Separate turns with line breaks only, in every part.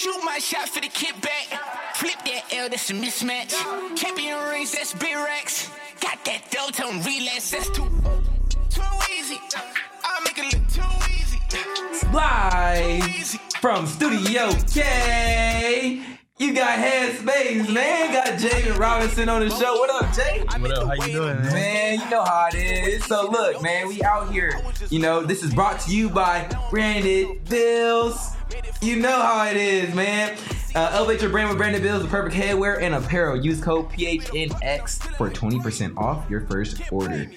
Shoot my shot for the kickback. Flip that L, that's a mismatch. Champion rings, that's big racks. Got that dough, tell them relax, that's too easy. I'll make it look too easy.
Live from Studio K. You got Headspace, man. Got Javen Robinson on the show. What up, Jay?
What up? How you doing, man?
Man, you know how it is. So look, man, we out here. You know, this is brought to you by Branded Bills. You know how it is, man. Elevate your brand with Branded Bills, the perfect headwear and apparel. Use code PHNX for 20% off your first order.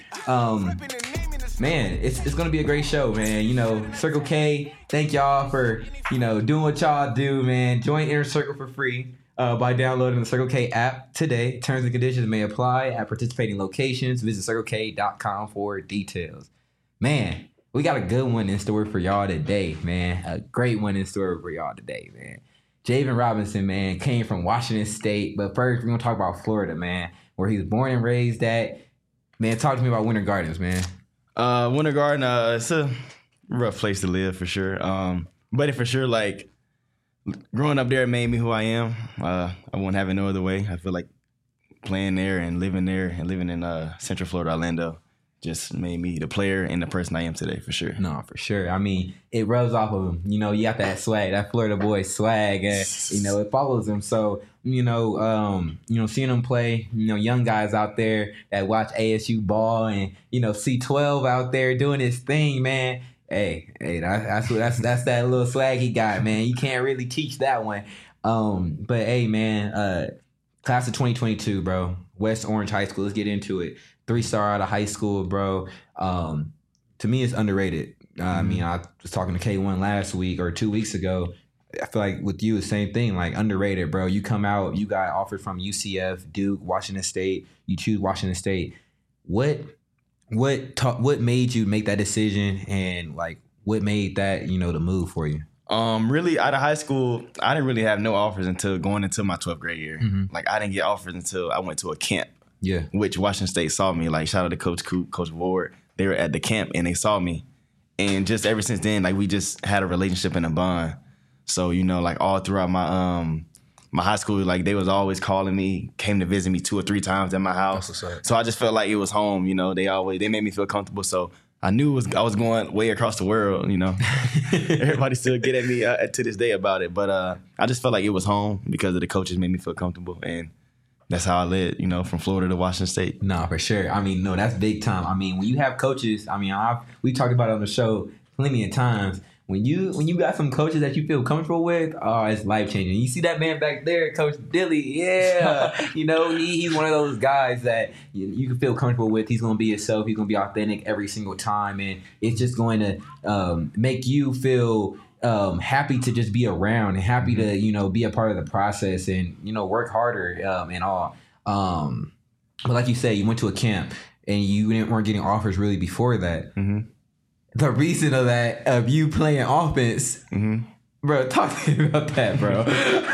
Man, it's gonna be a great show, man. You know, Circle K, thank y'all for, you know, doing what y'all do, man. Join Inner Circle for free by downloading the Circle K app today. Terms and conditions may apply at participating locations. Visit CircleK.com for details. Man, we got a good one in store for y'all today, man. A great one in store for y'all today, man. Javen Robinson, man, came from Washington State. But first, we're going to talk about Florida, man, where he was born and raised at. Man, talk to me about Winter Gardens, man.
Winter Garden, it's a rough place to live for sure. But it for sure, like, growing up there made me who I am. I wouldn't have it no other way. I feel like playing there and living in Central Florida, Orlando, just made me the player and the person I am today, for sure.
No, for sure. I mean, it rubs off of him. You know, you got that swag, that Florida boy swag, and, you know, it follows him. So, you know, seeing him play, you know, young guys out there that watch ASU ball and, you know, C12 out there doing his thing, man. Hey, that's that little swag he got, man. You can't really teach that one. But hey, man, class of 2022, bro. West Orange High School. Let's get into it. 3-star out of high school, bro. To me, it's underrated. I mean, I was talking to K1 last week or 2 weeks ago. I feel like with you, the same thing, like underrated, bro. You come out, you got offered from UCF, Duke, Washington State. You choose Washington State. What made you make that decision, and like what made that, you know, the move for you?
Really, out of high school, I didn't really have no offers until going into my 12th grade year.
Mm-hmm.
Like, I didn't get offers until I went to a camp.
Yeah.
Which Washington State saw me. Like, shout out to Coach Coop, Coach Ward. They were at the camp and they saw me. And just ever since then, like, we just had a relationship and a bond. So, you know, like, all throughout my my high school, like, they was always calling me, came to visit me 2 or 3 times at my house. So I just felt like it was home, you know. They made me feel comfortable. So I knew I was going way across the world, you know. Everybody still get at me to this day about it. But I just felt like it was home because of the coaches made me feel comfortable. And that's how I led, you know, from Florida to Washington State.
No, for sure. I mean, no, that's big time. I mean, when you have coaches, I mean, we talked about it on the show plenty of times. When you got some coaches that you feel comfortable with, oh, it's life changing. You see that man back there, Coach Dilly, yeah. You know, he's one of those guys that you can feel comfortable with. He's going to be himself. He's going to be authentic every single time, and it's just going to make you feel happy to just be around and happy to, you know, be a part of the process and, you know, work harder and all. But like you said, you went to a camp and you weren't getting offers really before that.
Mm-hmm.
The reason of you playing offense, bro, talk to me about that, bro.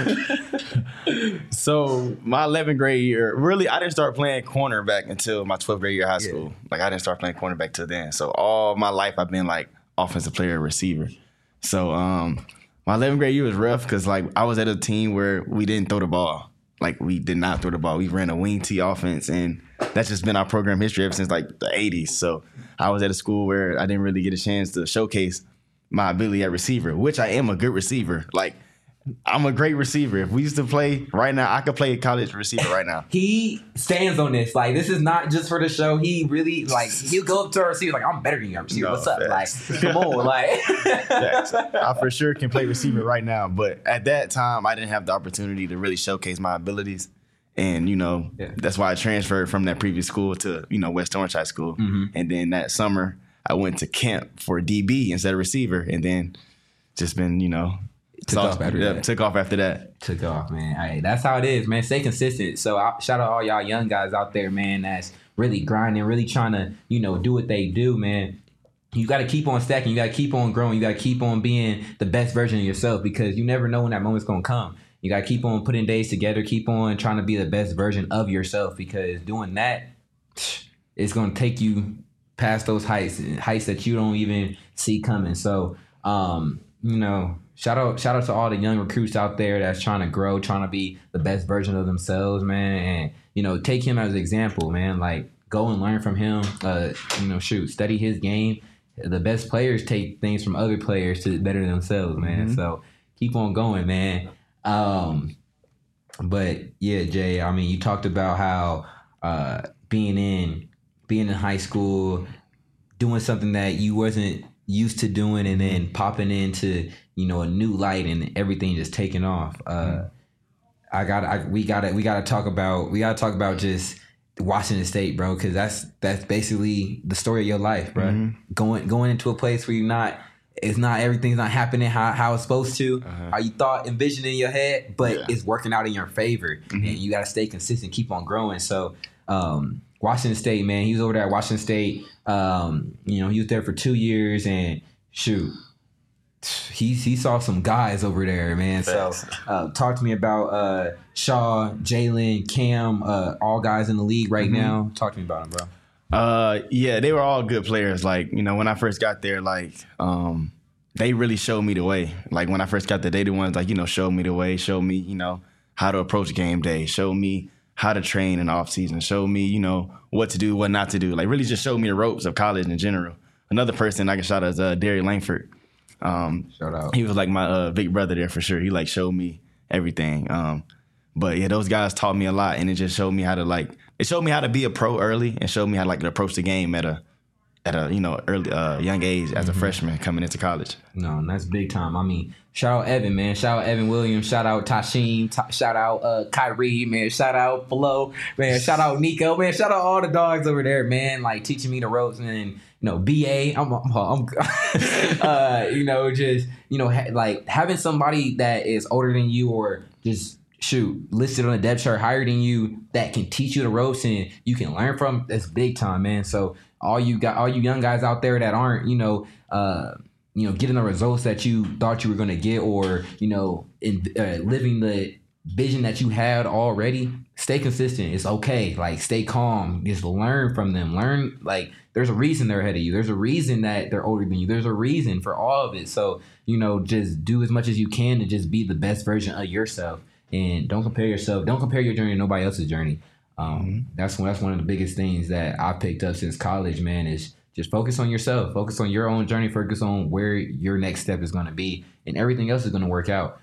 So my 11th grade year, really, I didn't start playing cornerback until my 12th grade year of high school. Like, I didn't start playing cornerback till then. So all my life, I've been like offensive player, receiver. So my 11th grade year was rough because, like, I was at a team where we didn't throw the ball. Like, we did not throw the ball. We ran a wing tee offense, and that's just been our program history ever since, like, the 80s. So I was at a school where I didn't really get a chance to showcase my ability at receiver, which I am a good receiver. Like, I'm a great receiver. If we used to play right now, I could play a college receiver right now.
He stands on this. Like, this is not just for the show. He really, like, he'll go up to our receiver like, I'm better than you, receiver.
No,
what's up?
facts.
Like, come on, like.
Facts. I for sure can play receiver right now. But at that time, I didn't have the opportunity to really showcase my abilities. And, you know, That's why I transferred from that previous school to, you know, West Orange High School. Mm-hmm. And then that summer, I went to camp for DB instead of receiver. And then just been, you know,
Took off after that.
Took off,
man. Hey, that's how it is, man. Stay consistent. So shout out all y'all young guys out there, man, that's really grinding, really trying to, you know, do what they do, man. You got to keep on stacking. You got to keep on growing. You got to keep on being the best version of yourself because you never know when that moment's going to come. You got to keep on putting days together. Keep on trying to be the best version of yourself because doing that, it's going to take you past those heights that you don't even see coming. So, you know, shout out to all the young recruits out there that's trying to grow, trying to be the best version of themselves, man. And take him as an example, man. Like, go and learn from him. Study his game. The best players take things from other players to better themselves, man. Mm-hmm. So keep on going, man. But yeah, Jay, I mean, you talked about how being in high school, doing something that you wasn't used to doing, and then popping into a new light and everything just taking off. We gotta talk about just Washington State, bro, because that's basically the story of your life, bro. Mm-hmm. Going into a place where everything's not happening how it's supposed to, how you envisioned in your head, but it's working out in your favor, and you gotta stay consistent, keep on growing. So Washington State, man, he was over there at Washington State. He was there for 2 years, and shoot, he saw some guys over there, man. Thanks. So talk to me about Shaw, Jalen, Cam, all guys in the league right now. Talk to me about them, bro.
Yeah, they were all good players. Like, when I first got there, like, they really showed me the way. Like, when I first got there, they the ones, like, showed me the way, showed me, how to approach game day, showed me how to train in the off season, showed me, what to do, what not to do. Like, really just showed me the ropes of college in general. Another person I can shout out is Derry Langford.
Shout out.
He was like my big brother there for sure. He like showed me everything. But yeah, those guys taught me a lot, and it just showed me how to be a pro early, and showed me how to approach the game at a early young age as a freshman coming into college.
No, and that's big time. I mean, shout out Evan, man. Shout out Evan Williams. Shout out Tasheem. Shout out Kyrie, man. Shout out Flo, man. Shout out Nico, man. Shout out all the dogs over there, man. Like teaching me the ropes, and BA. Like having somebody that is older than you, or just listed on a depth chart higher than you, that can teach you the ropes and you can learn from. That's big time, man. So all you young guys out there that aren't getting the results that you thought you were going to get, or living the vision that you had already, stay consistent. It's okay. Like, stay calm. Just learn from them. Learn, like, there's a reason they're ahead of you. There's a reason that they're older than you. There's a reason for all of it. So just do as much as you can to just be the best version of yourself, and don't compare yourself. Don't compare your journey to nobody else's journey. That's one of the biggest things that I picked up since college, man, is just focus on yourself, focus on your own journey, focus on where your next step is going to be, and everything else is going to work out.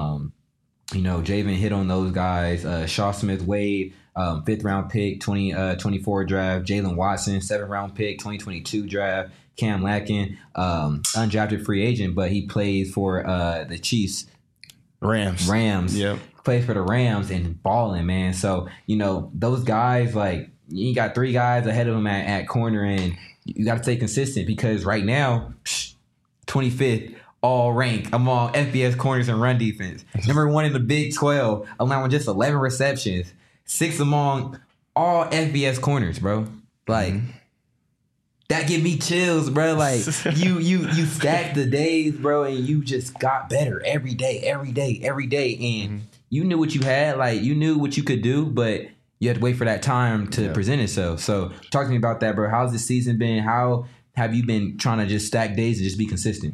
Javen hit on those guys. Shaw Smith Wade, 5th round pick, 2024 draft. Jalen Watson, 7th round pick, 2022 draft. Cam Latkin, undrafted free agent, but he plays for the Chiefs. Rams.
Yep.
Plays for the Rams and balling, man. So, those guys, like, you got 3 guys ahead of them at corner, and you got to stay consistent, because right now, 25th all rank among FBS corners and run defense. Number 1 in the Big 12, allowing just 11 receptions. 6th among all FBS corners, bro. Like, that give me chills, bro. Like, you stacked the days, bro, and you just got better every day. And you knew what you had. Like, you knew what you could do, but you had to wait for that time to present itself. So talk to me about that, bro. How's the season been? How have you been trying to just stack days and just be consistent?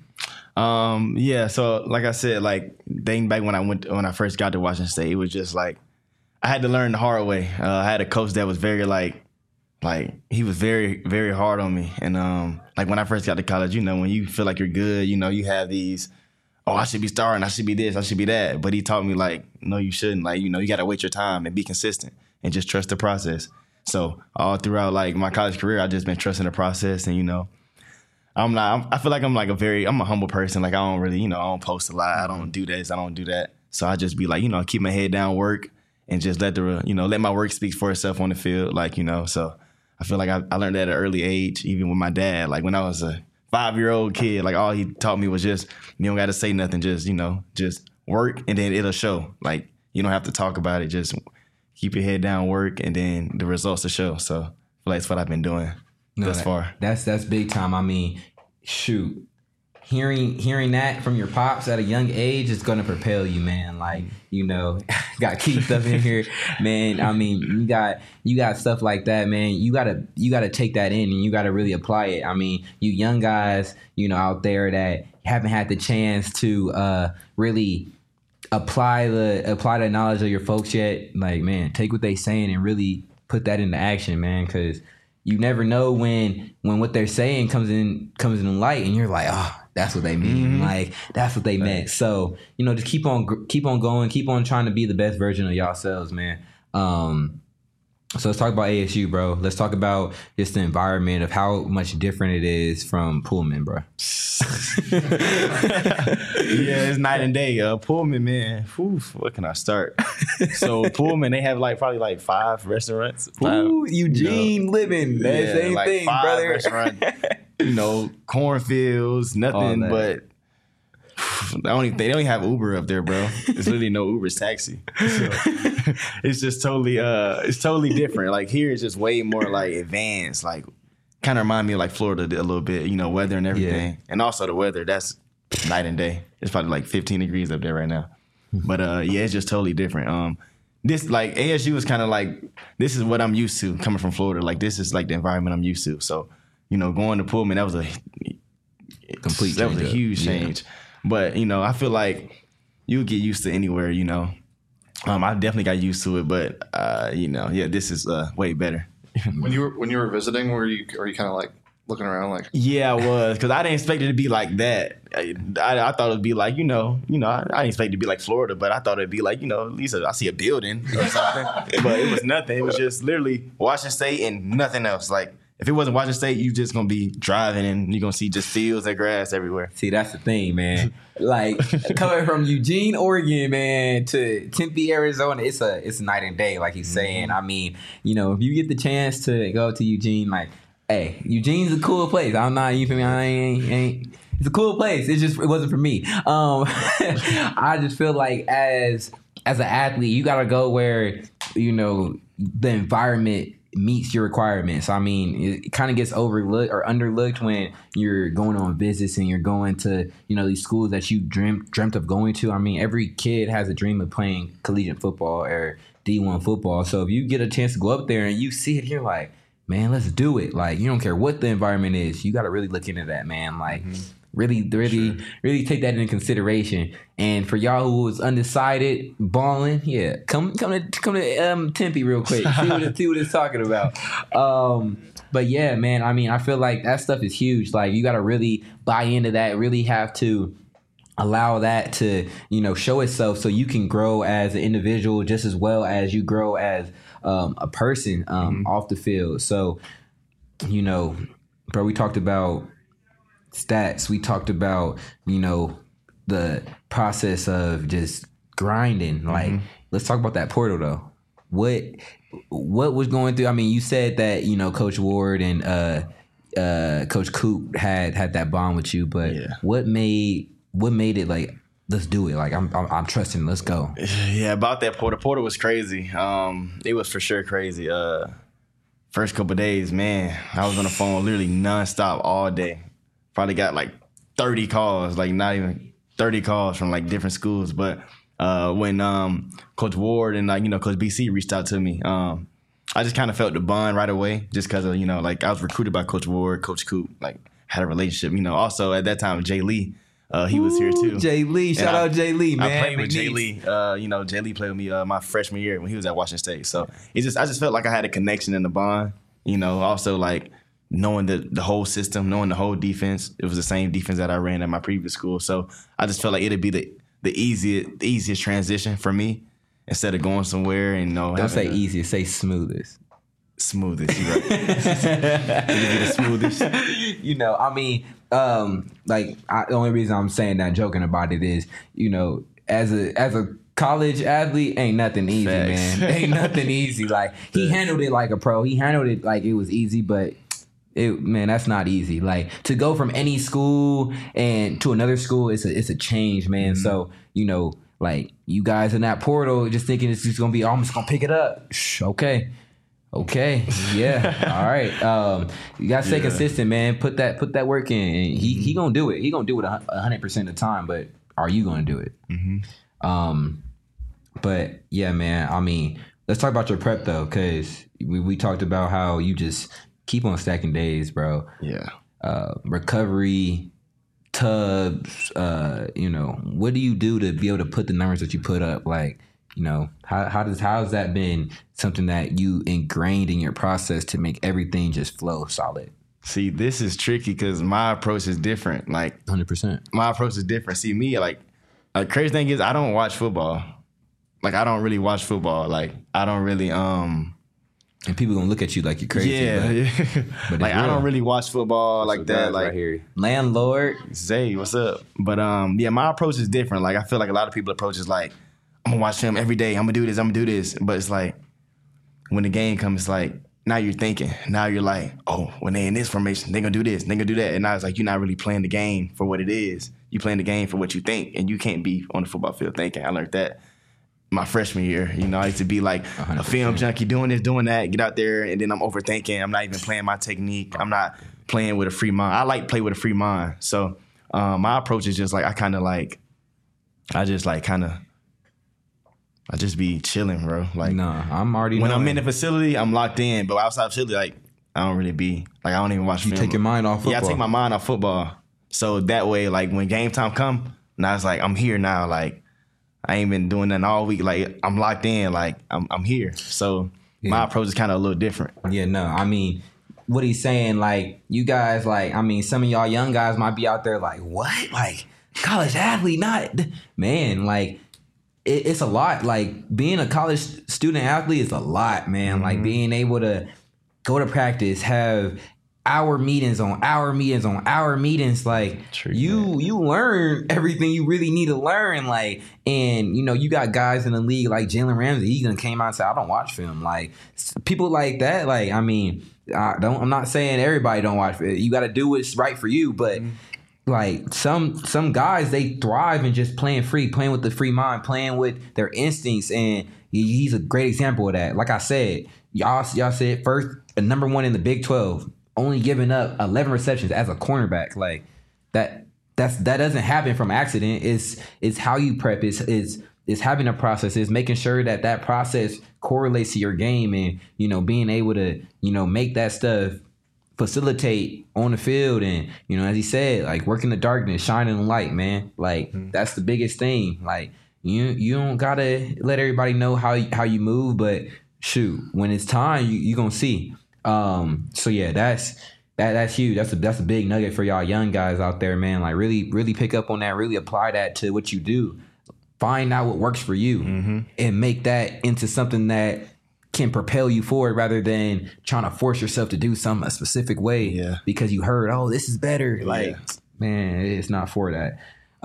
So like I said, like, dating back when I first got to Washington State, it was just like I had to learn the hard way. I had a coach that was very like he was very, very hard on me. And like when I first got to college, when you feel like you're good, you have these, I should be starting, I should be this, I should be that. But he taught me, like, no, you shouldn't. Like, you got to wait your time and be consistent and just trust the process. So all throughout, like, my college career, I just been trusting the process. And, I feel like I'm a humble person. Like, I don't really, I don't post a lot. I don't do this, I don't do that. So I just be like, keep my head down, work, and just let my work speak for itself on the field. Like, so I feel like I learned that at an early age, even with my dad. Like, when I was a 5-year-old kid, like, all he taught me was just, you don't got to say nothing, just, just work, and then it'll show. Like, you don't have to talk about it, just keep your head down, work, and then the results will show. So I feel like that's what I've been doing thus far. That's
big time. I mean, shoot. Hearing that from your pops at a young age is going to propel you, man. Like, got Keith up in here, man. I mean, you got stuff like that, man. You gotta take that in, and you gotta really apply it. I mean, you young guys, out there that haven't had the chance to really apply the knowledge of your folks yet, like, man, take what they saying and really put that into action, man, because you never know when what they're saying comes in light, and you're like, oh, that's what they mean. Like, that's what they meant. So, just keep on going, keep on trying to be the best version of yourselves, man. So let's talk about ASU, bro. Let's talk about just the environment of how much different it is from Pullman, bro.
Yeah, it's night and day. Pullman, man. Oof, what can I start? So Pullman, they have probably 5 restaurants.
Ooh, Eugene living. That same thing,
5
brother.
Restaurants, cornfields, nothing but. They don't have Uber up there, bro. There's literally no Uber's taxi. So, it's just totally different. Like here, it's just way more like advanced. Like kind of remind me of like Florida a little bit. Weather and everything, and also the weather. That's night and day. It's probably like 15 degrees up there right now. But it's just totally different. This like ASU is kind of like this is what I'm used to coming from Florida. Like this is like the environment I'm used to. So going to Pullman, that was a complete. That was a huge change. But, I feel like you get used to anywhere, I definitely got used to it, but, this is way better.
When you were visiting, were you kind of like looking around like? Yeah,
I was, because I didn't expect it to be like that. I thought it would be like, I didn't expect it to be like Florida, but I thought it'd be like, at least I see a building or something. But it was nothing. It was just literally Washington State and nothing else. Like, if it wasn't Washington State, you just going to be driving and you're going to see just fields and grass everywhere.
See, that's the thing, man. Like, coming from Eugene, Oregon, man, to Tempe, Arizona, it's night and day, like he's saying. I mean, if you get the chance to go to Eugene, like, hey, Eugene's a cool place. I'm not, you feel me? I ain't. It's a cool place. It wasn't for me. I just feel like as an athlete, you got to go where, the environment meets your requirements. I mean, it kind of gets overlooked or underlooked when you're going on visits and you're going to, these schools that you dreamt of going to. I mean, every kid has a dream of playing collegiate football or D1 football. So if you get a chance to go up there and you see it, you're like, man, let's do it. Like, you don't care what the environment is. You got to really look into that, man. Like, really take that into consideration. And for y'all who was undecided, balling, come to Tempe real quick. See what it's talking about. But yeah, man, I mean, I feel like that stuff is huge. Like, you got to really buy into that. Really have to allow that to, show itself so you can grow as an individual just as well as you grow as a person off the field. So, bro, we talked about stats. We talked about, the process of just grinding. Like, let's talk about that portal though. What was going through? I mean, you said that, Coach Ward and Coach Coop had that bond with you, but what made it like, let's do it? Like, I'm trusting. Let's go.
Yeah, about that portal. Portal was crazy. It was for sure crazy. First couple of days, man, I was on the phone literally nonstop all day. Probably got like 30 calls, like not even 30 calls from like different schools. But when Coach Ward and Coach BC reached out to me, I just kind of felt the bond right away, just because of I was recruited by Coach Ward, Coach Coop, like had a relationship. Also at that time, Jay Lee, he was here too.
Jay Lee, shout out Jay Lee, man.
I played with Jay Lee. Jay Lee played with me my freshman year when he was at Washington State. So I just felt like I had a connection in the bond. Also like knowing the whole system, knowing the whole defense. It was the same defense that I ran at my previous school. So I just felt like it'd be the easiest transition for me instead of going somewhere and
Don't say easiest, say smoothest.
Smoothest, you're right. It'd be the smoothest.
I mean, the only reason I'm saying that, joking about it is, as a college athlete, ain't nothing easy, man. Ain't nothing easy. Like, he handled it like a pro. He handled it like it was easy, but that's not easy. Like, to go from any school and to another school, it's a change, man. So, like, you guys in that portal just thinking it's just gonna be, I'm just gonna pick it up. Okay. Yeah. All right. You gotta stay consistent, man. Put that work in. And he gonna do it. He gonna do it 100% of the time. But are you gonna do it? But yeah, man. I mean, let's talk about your prep though, because we talked about how you just keep on stacking days, bro.
Yeah.
Recovery, tubs, what do you do to be able to put the numbers that you put up? Like, how's that been something that you ingrained in your process to make everything just flow solid?
See, this is tricky because my approach is different. Like
100%.
My approach is different. See, me, like crazy thing is I don't watch football. Like I don't really watch football. Like I don't really
and people gonna look at you like you're crazy.
Yeah. But like I don't really watch football like that. Like
right here. Landlord.
Zay, what's up? But my approach is different. Like I feel like a lot of people approach is like, I'm gonna watch film every day. I'm gonna do this. But it's like when the game comes, it's like now you're thinking. Now you're like, oh, when they in this formation, they gonna do this, they gonna do that. And now it's like you're not really playing the game for what it is. You playing the game for what you think, and you can't be on the football field thinking. I learned that my freshman year. I used to be like 100%. A film junkie, doing this, doing that, get out there, and then I'm overthinking. I'm not even playing my technique. I'm not playing with a free mind. I like play with a free mind. So my approach is just like I just be chilling, bro. Like
I'm already
when I'm in the facility, I'm locked in. But outside of facility, like I don't really be like I don't even watch film.
You take your mind off football.
Yeah, I take my mind off football. So that way, like when game time come, now it's like I'm here now. Like I ain't been doing nothing all week. Like I'm locked in. Like I'm here. So my approach is kind of a little different.
Yeah, no. I mean, what he's saying, like you guys, like some of y'all young guys might be out there like, what? Like college athlete, not man. Like it's a lot. Like being a college student athlete is a lot, man. Like being able to go to practice, have hour meetings on hour meetings on hour meetings, like you learn everything you really need to learn, like, and you got guys in the league like Jalen Ramsey. He gonna came out and said, I don't watch film. Like people like that, like I'm not saying everybody don't watch film. You got to do what's right for you, but like some guys, they thrive in just playing free, playing with the free mind, playing with their instincts, and he's a great example of that. Like I said, y'all said first, number one in the Big 12. Only giving up 11 receptions as a cornerback, like that doesn't happen from accident. It's how you prep. It's having a process. It's making sure that process correlates to your game, and being able to make that stuff facilitate on the field, and as he said, like work in the darkness, shine in the light, man. Like that's the biggest thing. Like you don't gotta let everybody know how you move, but shoot, when it's time, you gonna see. So yeah, that's huge. That's a big nugget for y'all young guys out there, man. Like really pick up on that, really apply that to what you do. Find out what works for you and make that into something that can propel you forward rather than trying to force yourself to do something a specific way because you heard, oh, this is better. Like, man, it's not for that.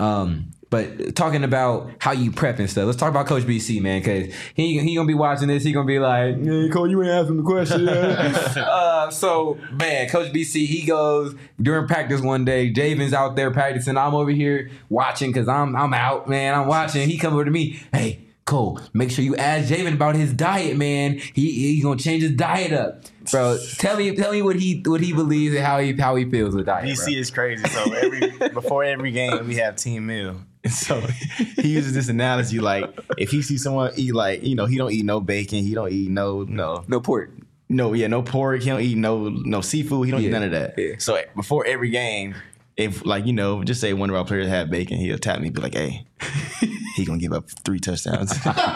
But talking about how you prep and stuff, let's talk about Coach BC, man, because he gonna be watching this. He gonna be like, "Hey, Coach, you ain't asking the question." So, man, Coach BC, he goes during practice one day. Javen's out there practicing. I'm over here watching because I'm out, man. I'm watching. He come over to me, hey, Cole, make sure you ask Javen about his diet, man. He gonna change his diet up, bro. Tell me what he believes and how he feels with diet.
BC is crazy. So before every game we have team meal. So he uses this analogy, like if he sees someone eat, like he don't eat no bacon, he don't eat no
pork.
No pork. He don't eat no seafood. He don't eat none of that. Yeah. So before every game, if just say one of our players had bacon, he'll tap me and be like, hey, he gonna give up 3 touchdowns.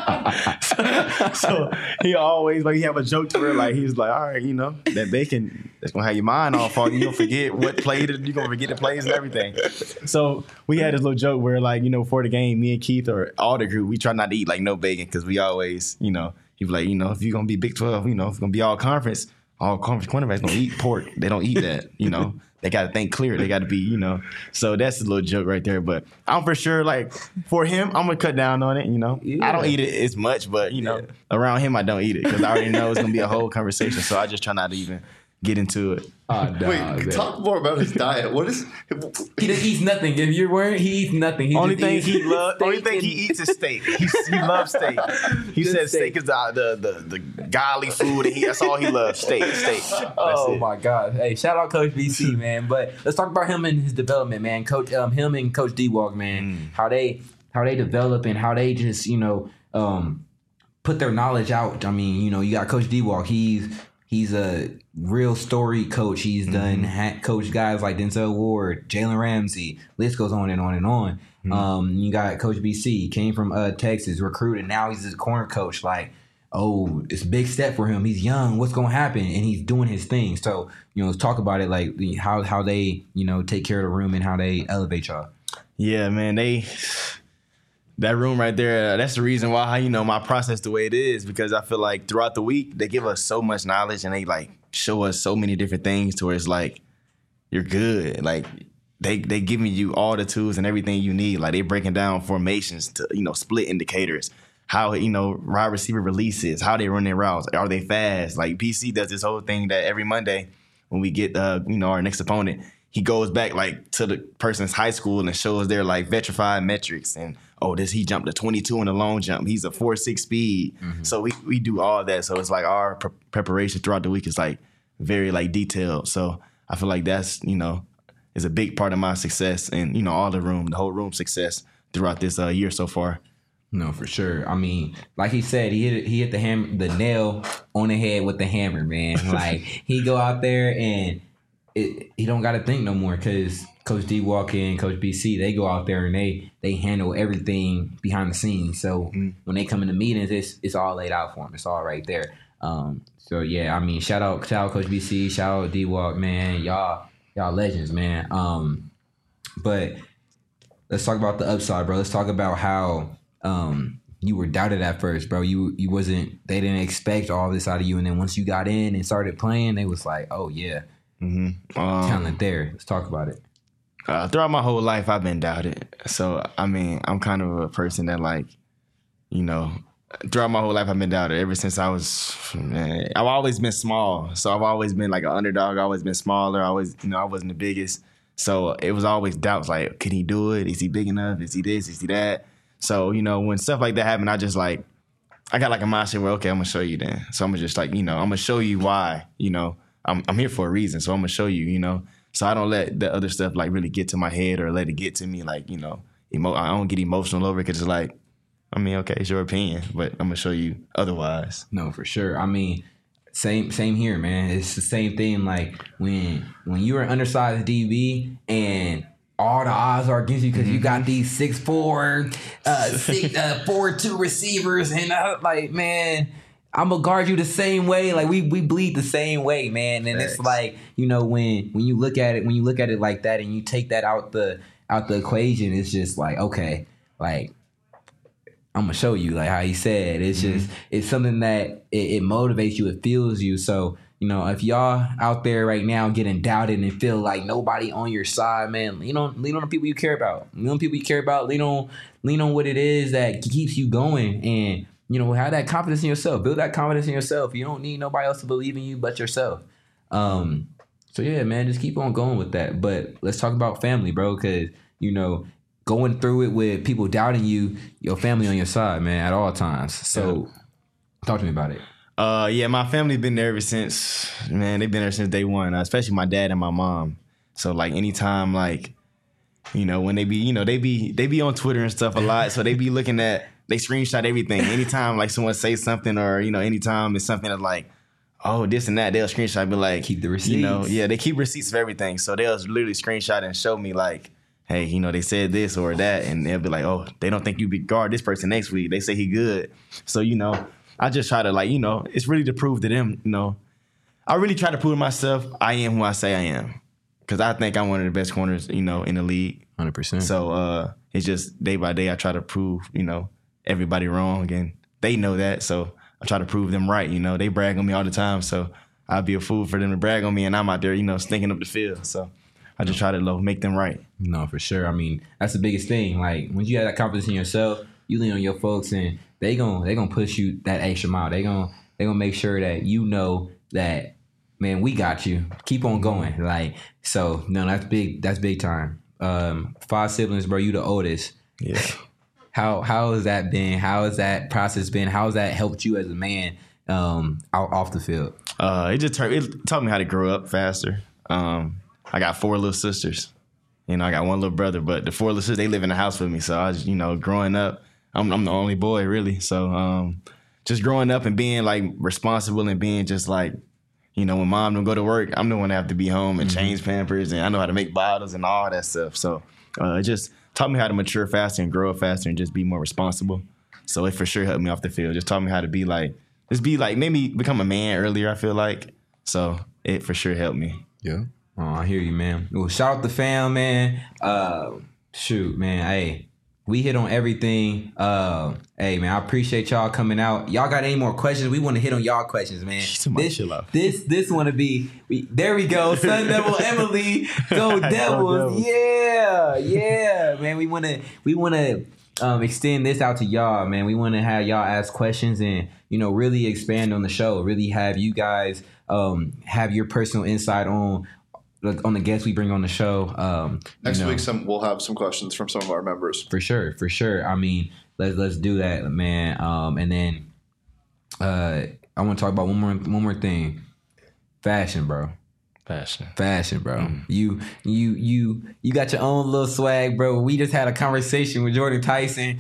so he always he have a joke to where he's like, all right, that bacon, that's gonna have your mind all foggy. You gonna forget what play, you gonna forget the plays and everything. So we had this little joke where before the game, me and Keith or all the group, we try not to eat no bacon because we always, he was like, if you're gonna be Big 12, if it's gonna be all conference cornerbacks don't eat pork. They don't eat that, They got to think clear. They got to be, So that's a little joke right there. But I'm for sure, for him, I'm going to cut down on it, Yeah. I don't eat it as much, but, around him, I don't eat it because I already know it's going to be a whole conversation. So I just try not to even get into it.
Wait, talk more about his diet. What is...
He just eats nothing. If you're worried, he eats nothing.
Only thing he eats is steak. He loves steak. He says steak is the godly food, and that's all he loves. Steak.
Oh my God! Hey, shout out Coach BC, man. But let's talk about him and his development, man. Coach, him and Coach D-Walk, man. How they develop and how they just put their knowledge out. I mean, you got Coach D-Walk. He's he's a real storied coach. He's done coach guys like Denzel Ward, Jalen Ramsey. List goes on and on and on. You got Coach BC, came from Texas, recruited. Now he's a corner coach. Like, oh, it's a big step for him. He's young. What's going to happen? And he's doing his thing. So, let's talk about it, like how they, take care of the room and how they elevate y'all.
Yeah, man, that room right there, that's the reason why, my process the way it is, because I feel like throughout the week, they give us so much knowledge and they like show us so many different things to where it's like, you're good. Like they giving you all the tools and everything you need. Like they breaking down formations to, split indicators, how, wide receiver releases, how they run their routes. Are they fast? Like PC does this whole thing that every Monday when we get, our next opponent, he goes back like to the person's high school and shows their like vitrified metrics and, he jumped a 22 in the long jump. He's a 4.6 speed. So we do all that. So it's like our preparation throughout the week is like very like detailed. So I feel like that's, is a big part of my success and, the whole room success throughout this year so far.
No, for sure. I mean, like he said, he hit the nail on the head with the hammer, man. Like he go out there and he don't got to think no more because Coach D walk in, Coach BC, they go out there and they handle everything behind the scenes. So when they come in the meetings, it's all laid out for them. It's all right there. So yeah, I mean, shout out Coach BC, shout out D Walk, man. Y'all legends, man. But let's talk about the upside, bro. Let's talk about how you were doubted at first, bro. You wasn't. They didn't expect all this out of you, and then once you got in and started playing, they was like, oh yeah. Talent there. Let's talk about it.
Throughout my whole life, I've been doubted. So, I mean, I'm kind of a person that like, throughout my whole life, I've been doubted. Ever since I've always been small. So I've always been like an underdog. I've always been smaller. I wasn't the biggest. So it was always doubts like, can he do it? Is he big enough? Is he this? Is he that? So, when stuff like that happened, I just like, I got like a mindset where, okay, I'm going to show you then. So I'm going to just like, I'm going to show you why, I'm here for a reason, so I'm gonna show you, So I don't let the other stuff like really get to my head or let it get to me, like I don't get emotional over it because it's like, I mean, okay, it's your opinion, but I'm gonna show you otherwise.
No, for sure. I mean, same here, man. It's the same thing. Like when you're an undersized DB and all the odds are against you because you got these 6'4", 4'2" receivers, and like, man. I'm gonna guard you the same way. Like we bleed the same way, man. And It's like, when you look at it like that and you take that out the equation, it's just like, okay, like I'm gonna show you, like how he said. It's just it's something that it motivates you, it fuels you. So, if y'all out there right now getting doubted and feel like nobody on your side, man, lean on the people you care about. Lean on people you care about. Lean on what it is that keeps you going and have that confidence in yourself. Build that confidence in yourself. You don't need nobody else to believe in you but yourself. So yeah, man, just keep on going with that. But let's talk about family, bro, because, going through it with people doubting you, your family on your side, man, at all times. So talk to me about it.
Yeah, my family been there ever since, man. They've been there since day one, especially my dad and my mom. So like anytime, like, when they be, they be on Twitter and stuff a lot. So they be looking at, they screenshot everything. Anytime like someone says something or, anytime it's something that's like, oh, this and that, they'll screenshot and be like,
keep the receipts.
They keep receipts of everything. So they'll literally screenshot and show me like, hey, they said this or that. And they'll be like, oh, they don't think you be guard this person next week. They say he good. So, I just try to like, it's really to prove to them, I really try to prove to myself I am who I say I am. Because I think I'm one of the best corners, in the league.
100%.
So it's just day by day I try to prove, everybody wrong, and they know that, so I try to prove them right. They brag on me all the time, so I'd be a fool for them to brag on me, and I'm out there, stinking up the field. So I just try to make them right.
No, for sure. I mean, that's the biggest thing. Like when you have that confidence in yourself, you lean on your folks, and they gonna push you that extra mile. They gonna make sure that that, man, we got you. Keep on going. Like, so no, that's big. That's big time. 5 siblings, bro. You the oldest.
Yeah.
How has that been? How has that process been? How has that helped you as a man off the field?
It taught me how to grow up faster. I got 4 little sisters. I got 1 little brother, but the 4 little sisters, they live in the house with me. So I was, growing up, I'm the only boy really. So just growing up and being like responsible and being just like You know, when mom don't go to work, I'm the one that have to be home and change Pampers, and I know how to make bottles and all that stuff. So it just taught me how to mature faster and grow up faster and just be more responsible. So it for sure helped me off the field. Just taught me how to be like, maybe become a man earlier, I feel like. So it for sure helped me.
Yeah. Oh, I hear you, man. Well, shout out the fam, man. Shoot, man. Hey, we hit on everything. Hey, man, I appreciate y'all coming out. Y'all got any more questions? We want to hit on y'all questions, man. This want to be. There we go. Sun Devil Emily, go Devils. Yeah, man. We want to extend this out to y'all, man. We want to have y'all ask questions and really expand on the show. Really have you guys have your personal insight on the guests we bring on the show.
Next week, we'll have some questions from some of our members. For
sure. I mean, let's do that, man. And then I want to talk about one more thing. Fashion, bro. Fashion, bro. You got your own little swag, bro. We just had a conversation with Jordan Tyson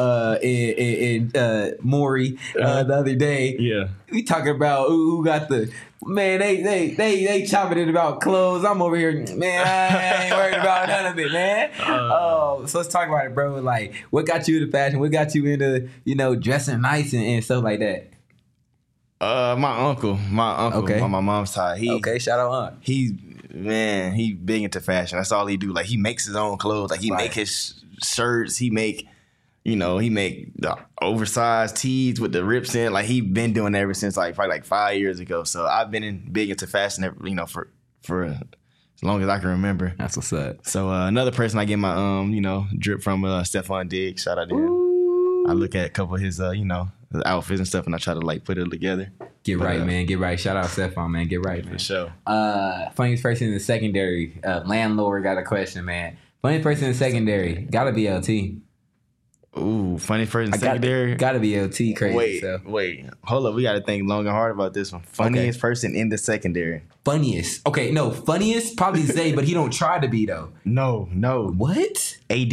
and Maury the other day.
Yeah,
we talking about who got the man. They chopping it about clothes. I'm over here, man. I ain't worried about none of it, man. So let's talk about it, bro. Like, what got you into fashion? What got you into dressing nice and stuff like that?
My uncle
okay.
on my mom's side.
Shout out aunt.
He big into fashion. That's all he do. Like, he makes his own clothes. Like, he make his shirts. He make the oversized tees with the rips in. Like, he been doing that ever since probably 5 years ago. So I've been big into fashion, for as long as I can remember.
That's what's up.
So another person I get my drip from, Stephon Diggs. Shout out to him. I look at a couple of his the outfits and stuff, and I try to put it together.
Get right, man. Get right. Shout out Stephon, man. Get right, man.
For sure.
Funniest person in the secondary. Landlord got a question, man. Funniest person in the secondary. Gotta be LT.
Ooh, funniest person in the secondary.
Gotta be LT. Crazy.
Wait. Hold up. We gotta think long and hard about this one. Funniest person in the secondary.
Funniest. Okay, no. Funniest probably Zay, but he don't try to be though.
No.
What?
AD.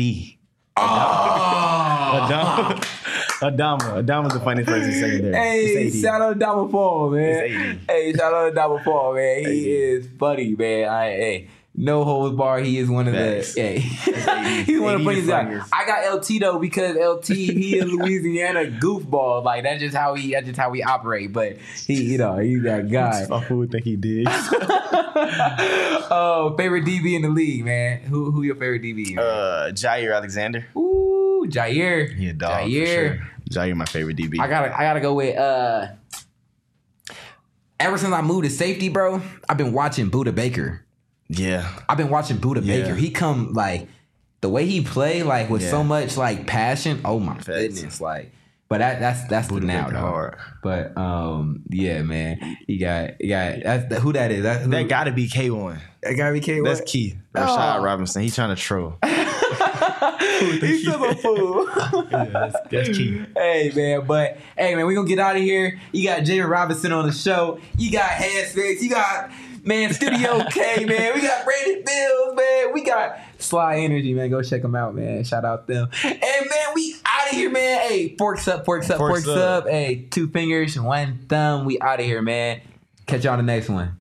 Oh.
Adama's the funniest person in secondary.
Hey, shout out to Adama Fall, man. Hey, shout out to Adama Fall, man. He is funny, man. No holds bar. He is one of the. Yeah, he's one of the funniest guys. I got LT though because LT he is Louisiana goofball. Like that's just how we operate. But he's that guy.
Who would think he did?
Oh, favorite DB in the league, man. Who your favorite DB?
Jair Alexander.
Ooh, Jair.
He a dog. Jair. For sure. Jair, my favorite DB.
I gotta go with. Ever since I moved to safety, bro, I've been watching Budda Baker.
Yeah,
I've been watching Budda Baker. He come the way he play with so much passion. Oh my goodness, But that's the now though. But yeah, man, he got that's who that is.
That gotta be K1.
That gotta be K1.
That's Key. Rashad Robinson. He trying to troll.
He's still a fool.
Yeah, that's Key.
Hey man, we gonna get out of here. You got Jaden Robinson on the show. You got Headspace. You got. Man, Studio K, man. We got Brandon Bills, man. We got Sly Energy, man. Go check them out, man. Shout out them. And, man, we out of here, man. Hey, forks up. Hey, 2 fingers, 1 thumb. We out of here, man. Catch y'all on the next one.